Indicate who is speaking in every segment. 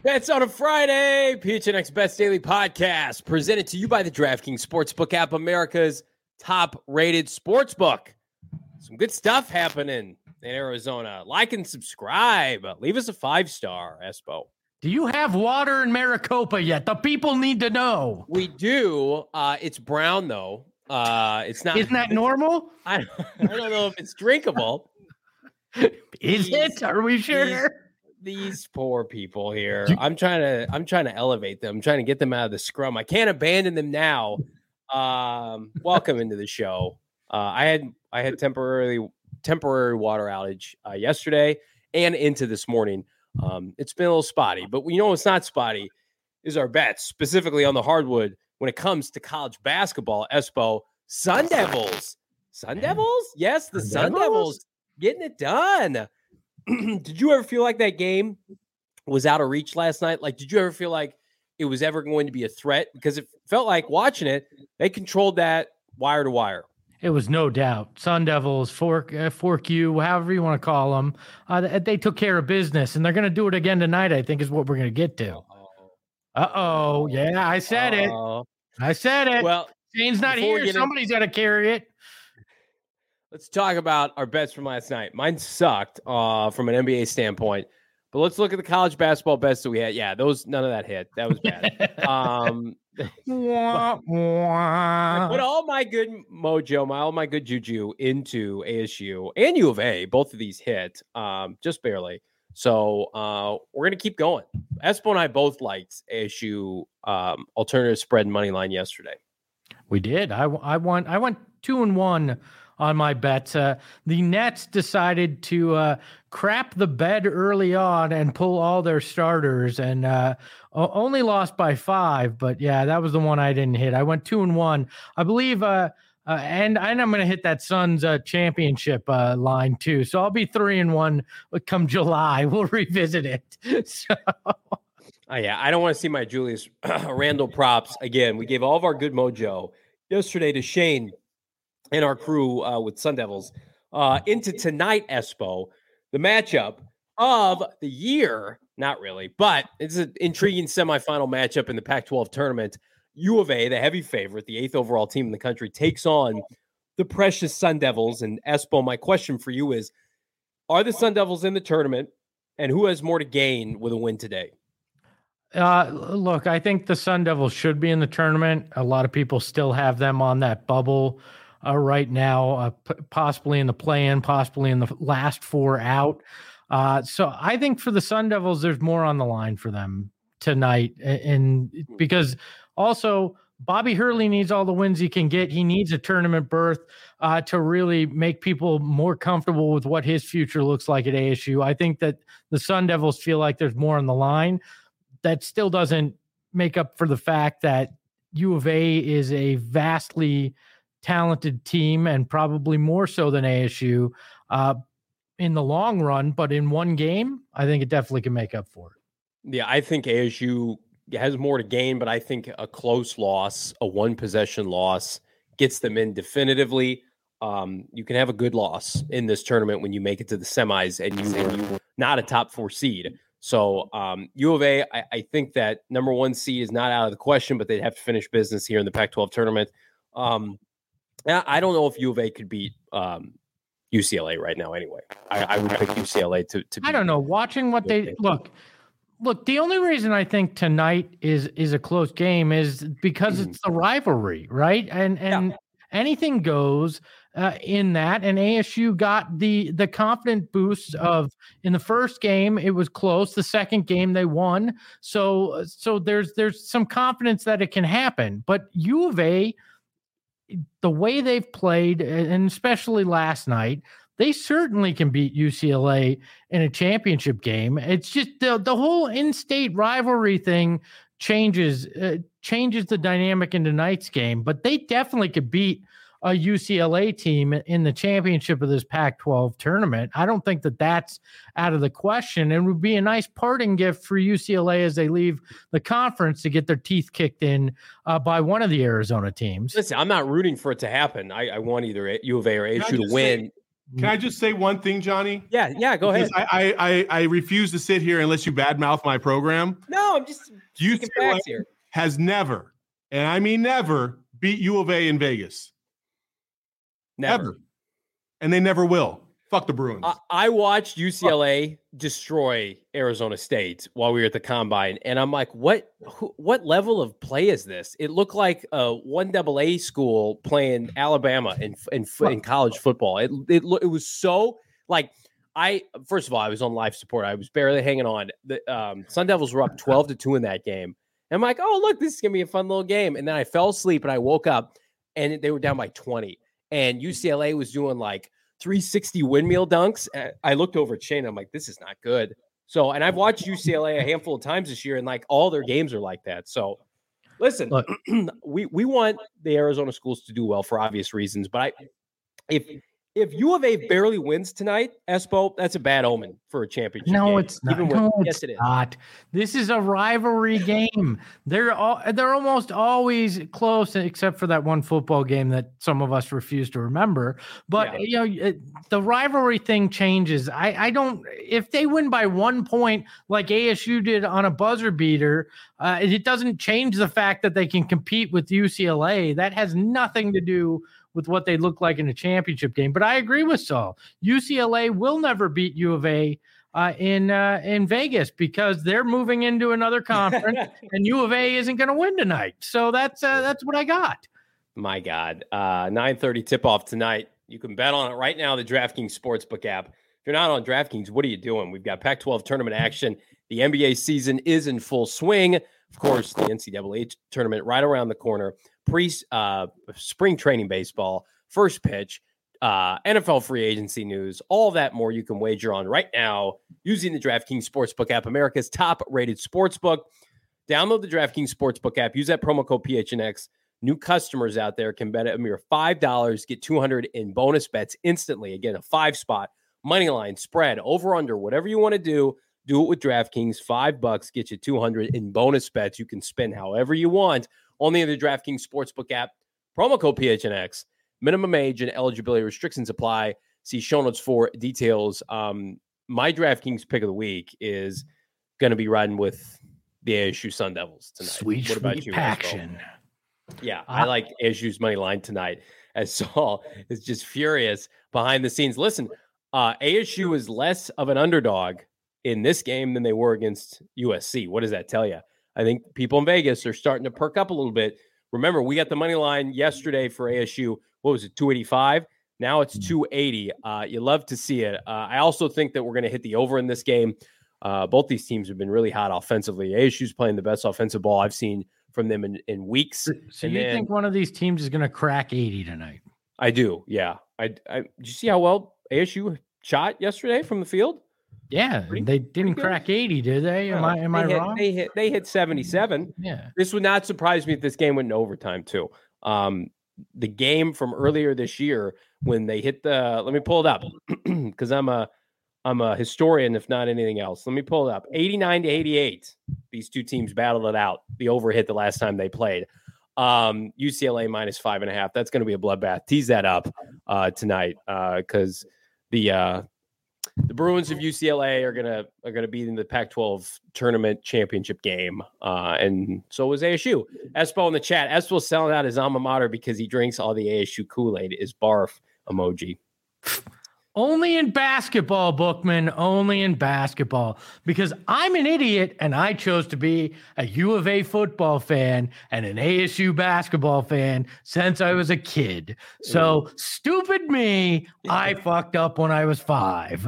Speaker 1: Bets on a Friday, PHNX Bets Daily Podcast, presented to you by the DraftKings Sportsbook app, America's top-rated sportsbook. Some good stuff happening in Arizona. Like and subscribe. Leave us a 5-star, Espo.
Speaker 2: Do you have water in Maricopa yet? The people need to know.
Speaker 1: We do. It's brown, though. It's not.
Speaker 2: Isn't that normal?
Speaker 1: I don't know if it's drinkable.
Speaker 2: Is it? Are we sure?
Speaker 1: These poor people here. I'm trying to elevate them. I'm trying to get them out of the scrum. I can't abandon them now. Welcome into the show. I had temporary water outage yesterday and into this morning. It's been a little spotty, but you know what's not spotty is our bets, specifically on the hardwood when it comes to college basketball. Espo, Sun Devils. Sun Devils? Yes, the Sun Devils getting it done. Did you ever feel like that game was out of reach last night? Like, did you ever feel like it was ever going to be a threat? Because it felt like watching it, they controlled that wire to wire.
Speaker 2: It was no doubt. Sun Devils, Fork U, however you want to call them, they took care of business, and they're going to do it again tonight, I think is what we're going to get to. Uh-oh. Yeah, I said it. I said it.
Speaker 1: Well,
Speaker 2: Shane's not here. Somebody's got to carry it.
Speaker 1: Let's talk about our bets from last night. Mine sucked from an NBA standpoint, but let's look at the college basketball bets that we had. Yeah, none of that hit. That was bad. I put all my good mojo, all my good juju into ASU and U of A. Both of these hit, just barely. So we're gonna keep going. Espo and I both liked ASU alternative spread money line yesterday.
Speaker 2: We did. I went 2-1 on my bets. The Nets decided to crap the bed early on and pull all their starters, and only lost by 5. But yeah, that was the one I didn't hit. I went 2-1, I believe, and I'm going to hit that Suns championship line too. So I'll be 3-1 come July. We'll revisit it. So.
Speaker 1: Yeah, I don't want to see my Julius Randle props again. We gave all of our good mojo yesterday to Shane and our crew with Sun Devils into tonight, Espo, the matchup of the year. Not really, but it's an intriguing semifinal matchup in the Pac-12 tournament. U of A, the heavy favorite, the 8th overall team in the country, takes on the precious Sun Devils. And Espo, my question for you is, are the Sun Devils in the tournament, and who has more to gain with a win today?
Speaker 2: Look, I think the Sun Devils should be in the tournament. A lot of people still have them on that bubble right now, possibly in the play-in, possibly in the last 4 out. So I think for the Sun Devils, there's more on the line for them tonight. And because also Bobby Hurley needs all the wins he can get. He needs a tournament berth to really make people more comfortable with what his future looks like at ASU. I think that the Sun Devils feel like there's more on the line. That still doesn't make up for the fact that U of A is a vastly talented team, and probably more so than ASU in the long run. But in one game, I think it definitely can make up for it.
Speaker 1: Yeah, I think ASU has more to gain, but I think a close loss, a one-possession loss, gets them in definitively. You can have a good loss in this tournament when you make it to the semis and you were not a top 4 seed. So U of A, I think that number 1 seed is not out of the question, but they'd have to finish business here in the Pac-12 tournament. I don't know if U of A could beat UCLA right now anyway. I would pick UCLA to beat.
Speaker 2: I don't know. Watching what they look, the only reason I think tonight is a close game is because it's the rivalry, right? And anything goes in that. And ASU got the confident boost of, in the first game it was close, the second game they won. So there's some confidence that it can happen. But U of A, the way they've played, and especially last night, they certainly can beat UCLA in a championship game. It's just the whole in-state rivalry thing changes the dynamic in tonight's game. But they definitely could beat a UCLA team in the championship of this Pac-12 tournament. I don't think that that's out of the question. And it would be a nice parting gift for UCLA as they leave the conference to get their teeth kicked in by one of the Arizona teams.
Speaker 1: Listen, I'm not rooting for it to happen. I want either U of A or ASU to win.
Speaker 3: Can I just say one thing, Johnny?
Speaker 1: Yeah, go ahead.
Speaker 3: I refuse to sit here unless you badmouth my program.
Speaker 1: No, I'm just
Speaker 3: UCLA
Speaker 1: here.
Speaker 3: Has never, and I mean never, beat U of A in Vegas.
Speaker 1: Never.
Speaker 3: And they never will. Fuck the Bruins.
Speaker 1: I watched UCLA destroy Arizona State while we were at the Combine, and I'm like, what level of play is this? It looked like a 1AA school playing Alabama in college football. It was so like first of all, I was on life support. I was barely hanging on. The Sun Devils were up 12-2 in that game. And I'm like, oh look, this is gonna be a fun little game. And then I fell asleep and I woke up and they were down by 20. And UCLA was doing like 360 windmill dunks. I looked over at Shane. I'm like, this is not good. So, and I've watched UCLA a handful of times this year, and like all their games are like that. So, listen, look, we want the Arizona schools to do well for obvious reasons. But if U of A barely wins tonight, Espo, that's a bad omen for a championship.
Speaker 2: No,
Speaker 1: game.
Speaker 2: it's not. Yes, it is. Not. This is a rivalry game. They're almost always close, except for that one football game that some of us refuse to remember. But the rivalry thing changes. I don't. If they win by 1 point, like ASU did on a buzzer beater, it doesn't change the fact that they can compete with UCLA. That has nothing to do with what they look like in a championship game. But I agree with Saul. UCLA will never beat U of A in Vegas because they're moving into another conference and U of A isn't going to win tonight. So that's what I got.
Speaker 1: My God. 9:30 tip-off tonight. You can bet on it right now, the DraftKings Sportsbook app. If you're not on DraftKings, what are you doing? We've got Pac-12 tournament action. The NBA season is in full swing. Of course, the NCAA tournament right around the corner. Spring training baseball, first pitch, NFL free agency news, all that more you can wager on right now using the DraftKings Sportsbook app, America's top-rated sportsbook. Download the DraftKings Sportsbook app. Use that promo code PHNX. New customers out there can bet a mere $5, get $200 in bonus bets instantly. Again, a 5-spot, money line, spread, over, under, whatever you want to do. Do it with DraftKings. $5 get you $200 in bonus bets. You can spend however you want. Only in the DraftKings Sportsbook app. Promo code PHNX. Minimum age and eligibility restrictions apply. See show notes for details. My DraftKings pick of the week is going to be riding with the ASU Sun Devils tonight.
Speaker 2: What about you, Paxton?
Speaker 1: Yeah, I like ASU's money line tonight. As Saul is just furious behind the scenes. Listen, ASU is less of an underdog in this game than they were against USC. What does that tell you? I think people in Vegas are starting to perk up a little bit. Remember, we got the money line yesterday for ASU. What was it, 285? Now it's 280. You love to see it. I also think that we're going to hit the over in this game. Both these teams have been really hot offensively. ASU's playing the best offensive ball I've seen from them in weeks.
Speaker 2: So you think one of these teams is going to crack 80 tonight?
Speaker 1: I do, yeah. Did you see how well ASU shot yesterday from the field?
Speaker 2: Yeah, they didn't crack 80, did they? Am I wrong?
Speaker 1: They hit 77.
Speaker 2: Yeah.
Speaker 1: This would not surprise me if this game went into overtime too. The game from earlier this year when they hit let me pull it up because I'm a historian, if not anything else. Let me pull it up. 89-88. These two teams battled it out. The over hit the last time they played. UCLA -5.5. That's going to be a bloodbath. Tease that up tonight because the Bruins of UCLA are gonna be in the Pac-12 tournament championship game, and so is ASU. Espo in the chat. Espo's selling out his alma mater because he drinks all the ASU Kool-Aid. Is barf emoji.
Speaker 2: Only in basketball, Bookman. Only in basketball. Because I'm an idiot and I chose to be a U of A football fan and an ASU basketball fan since I was a kid. So stupid me, I fucked up when I was 5.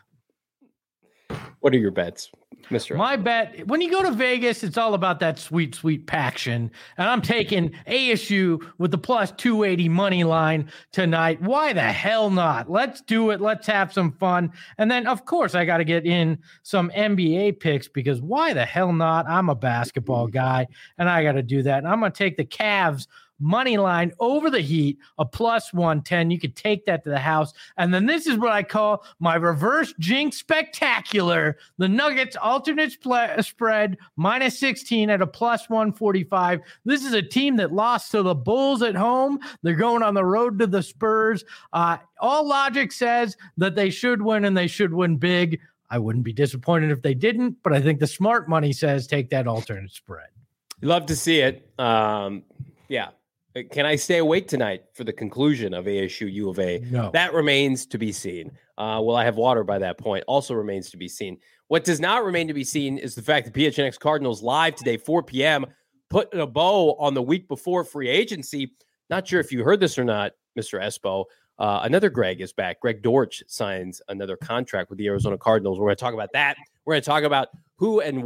Speaker 1: What are your bets, Mr.
Speaker 2: My bet, when you go to Vegas, it's all about that sweet, sweet Paction. And I'm taking ASU with the plus 280 money line tonight. Why the hell not? Let's do it. Let's have some fun. And then, of course, I got to get in some NBA picks because why the hell not? I'm a basketball guy, and I got to do that. And I'm going to take the Cavs money line over the Heat, a +110. You could take that to the house. And then this is what I call my reverse jinx spectacular. The Nuggets alternate spread -16 at a +145. This is a team that lost to the Bulls at home. They're going on the road to the Spurs. All logic says that they should win, and they should win big. I wouldn't be disappointed if they didn't, but I think the smart money says take that alternate spread.
Speaker 1: Love to see it. Yeah. Can I stay awake tonight for the conclusion of ASU U of A?
Speaker 2: No.
Speaker 1: That remains to be seen. Will I have water by that point? Also remains to be seen. What does not remain to be seen is the fact that PHNX Cardinals live today, 4 p.m., putting a bow on the week before free agency. Not sure if you heard this or not, Mr. Espo. Another Greg is back. Greg Dortch signs another contract with the Arizona Cardinals. We're going to talk about that. We're going to talk about who and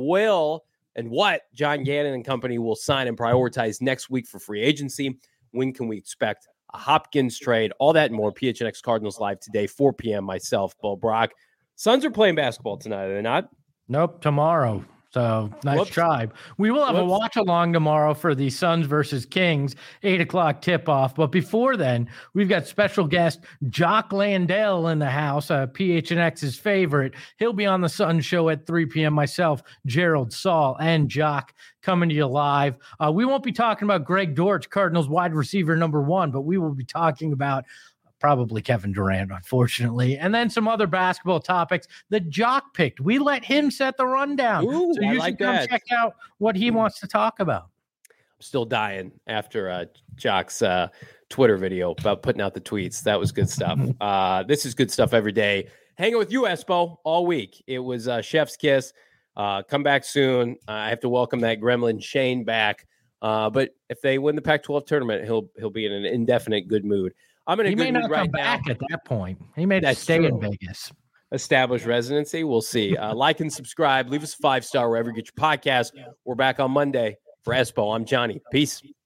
Speaker 1: what John Gannon and company will sign and prioritize next week for free agency. When can we expect a Hopkins trade? All that and more. PHNX Cardinals live today, 4 p.m. Myself, Bo Brock. Suns are playing basketball tonight, are they not?
Speaker 2: Nope, tomorrow. So nice try. We will have a watch along tomorrow for the Suns versus Kings, 8:00 tip off. But before then, we've got special guest Jock Landale in the house, PHNX's favorite. He'll be on the Suns show at 3 p.m. Myself, Gerald, Saul, and Jock coming to you live. We won't be talking about Greg Dortch, Cardinals wide receiver #1, but we will be talking about probably Kevin Durant, unfortunately. And then some other basketball topics that Jock picked. We let him set the rundown.
Speaker 1: Ooh,
Speaker 2: so you should come check out what he wants to talk about.
Speaker 1: I'm still dying after Jock's Twitter video about putting out the tweets. That was good stuff. This is good stuff every day. Hanging with you, Espo, all week. It was Chef's Kiss. Come back soon. I have to welcome that gremlin Shane back. But if they win the Pac-12 tournament, he'll be in an indefinite good mood. I'm in a good mood right now. He may not come back
Speaker 2: at that point. He may stay in Vegas.
Speaker 1: Establish residency. We'll see. Like and subscribe. Leave us a 5-star wherever you get your podcast. We're back on Monday. For Espo, I'm Johnny. Peace.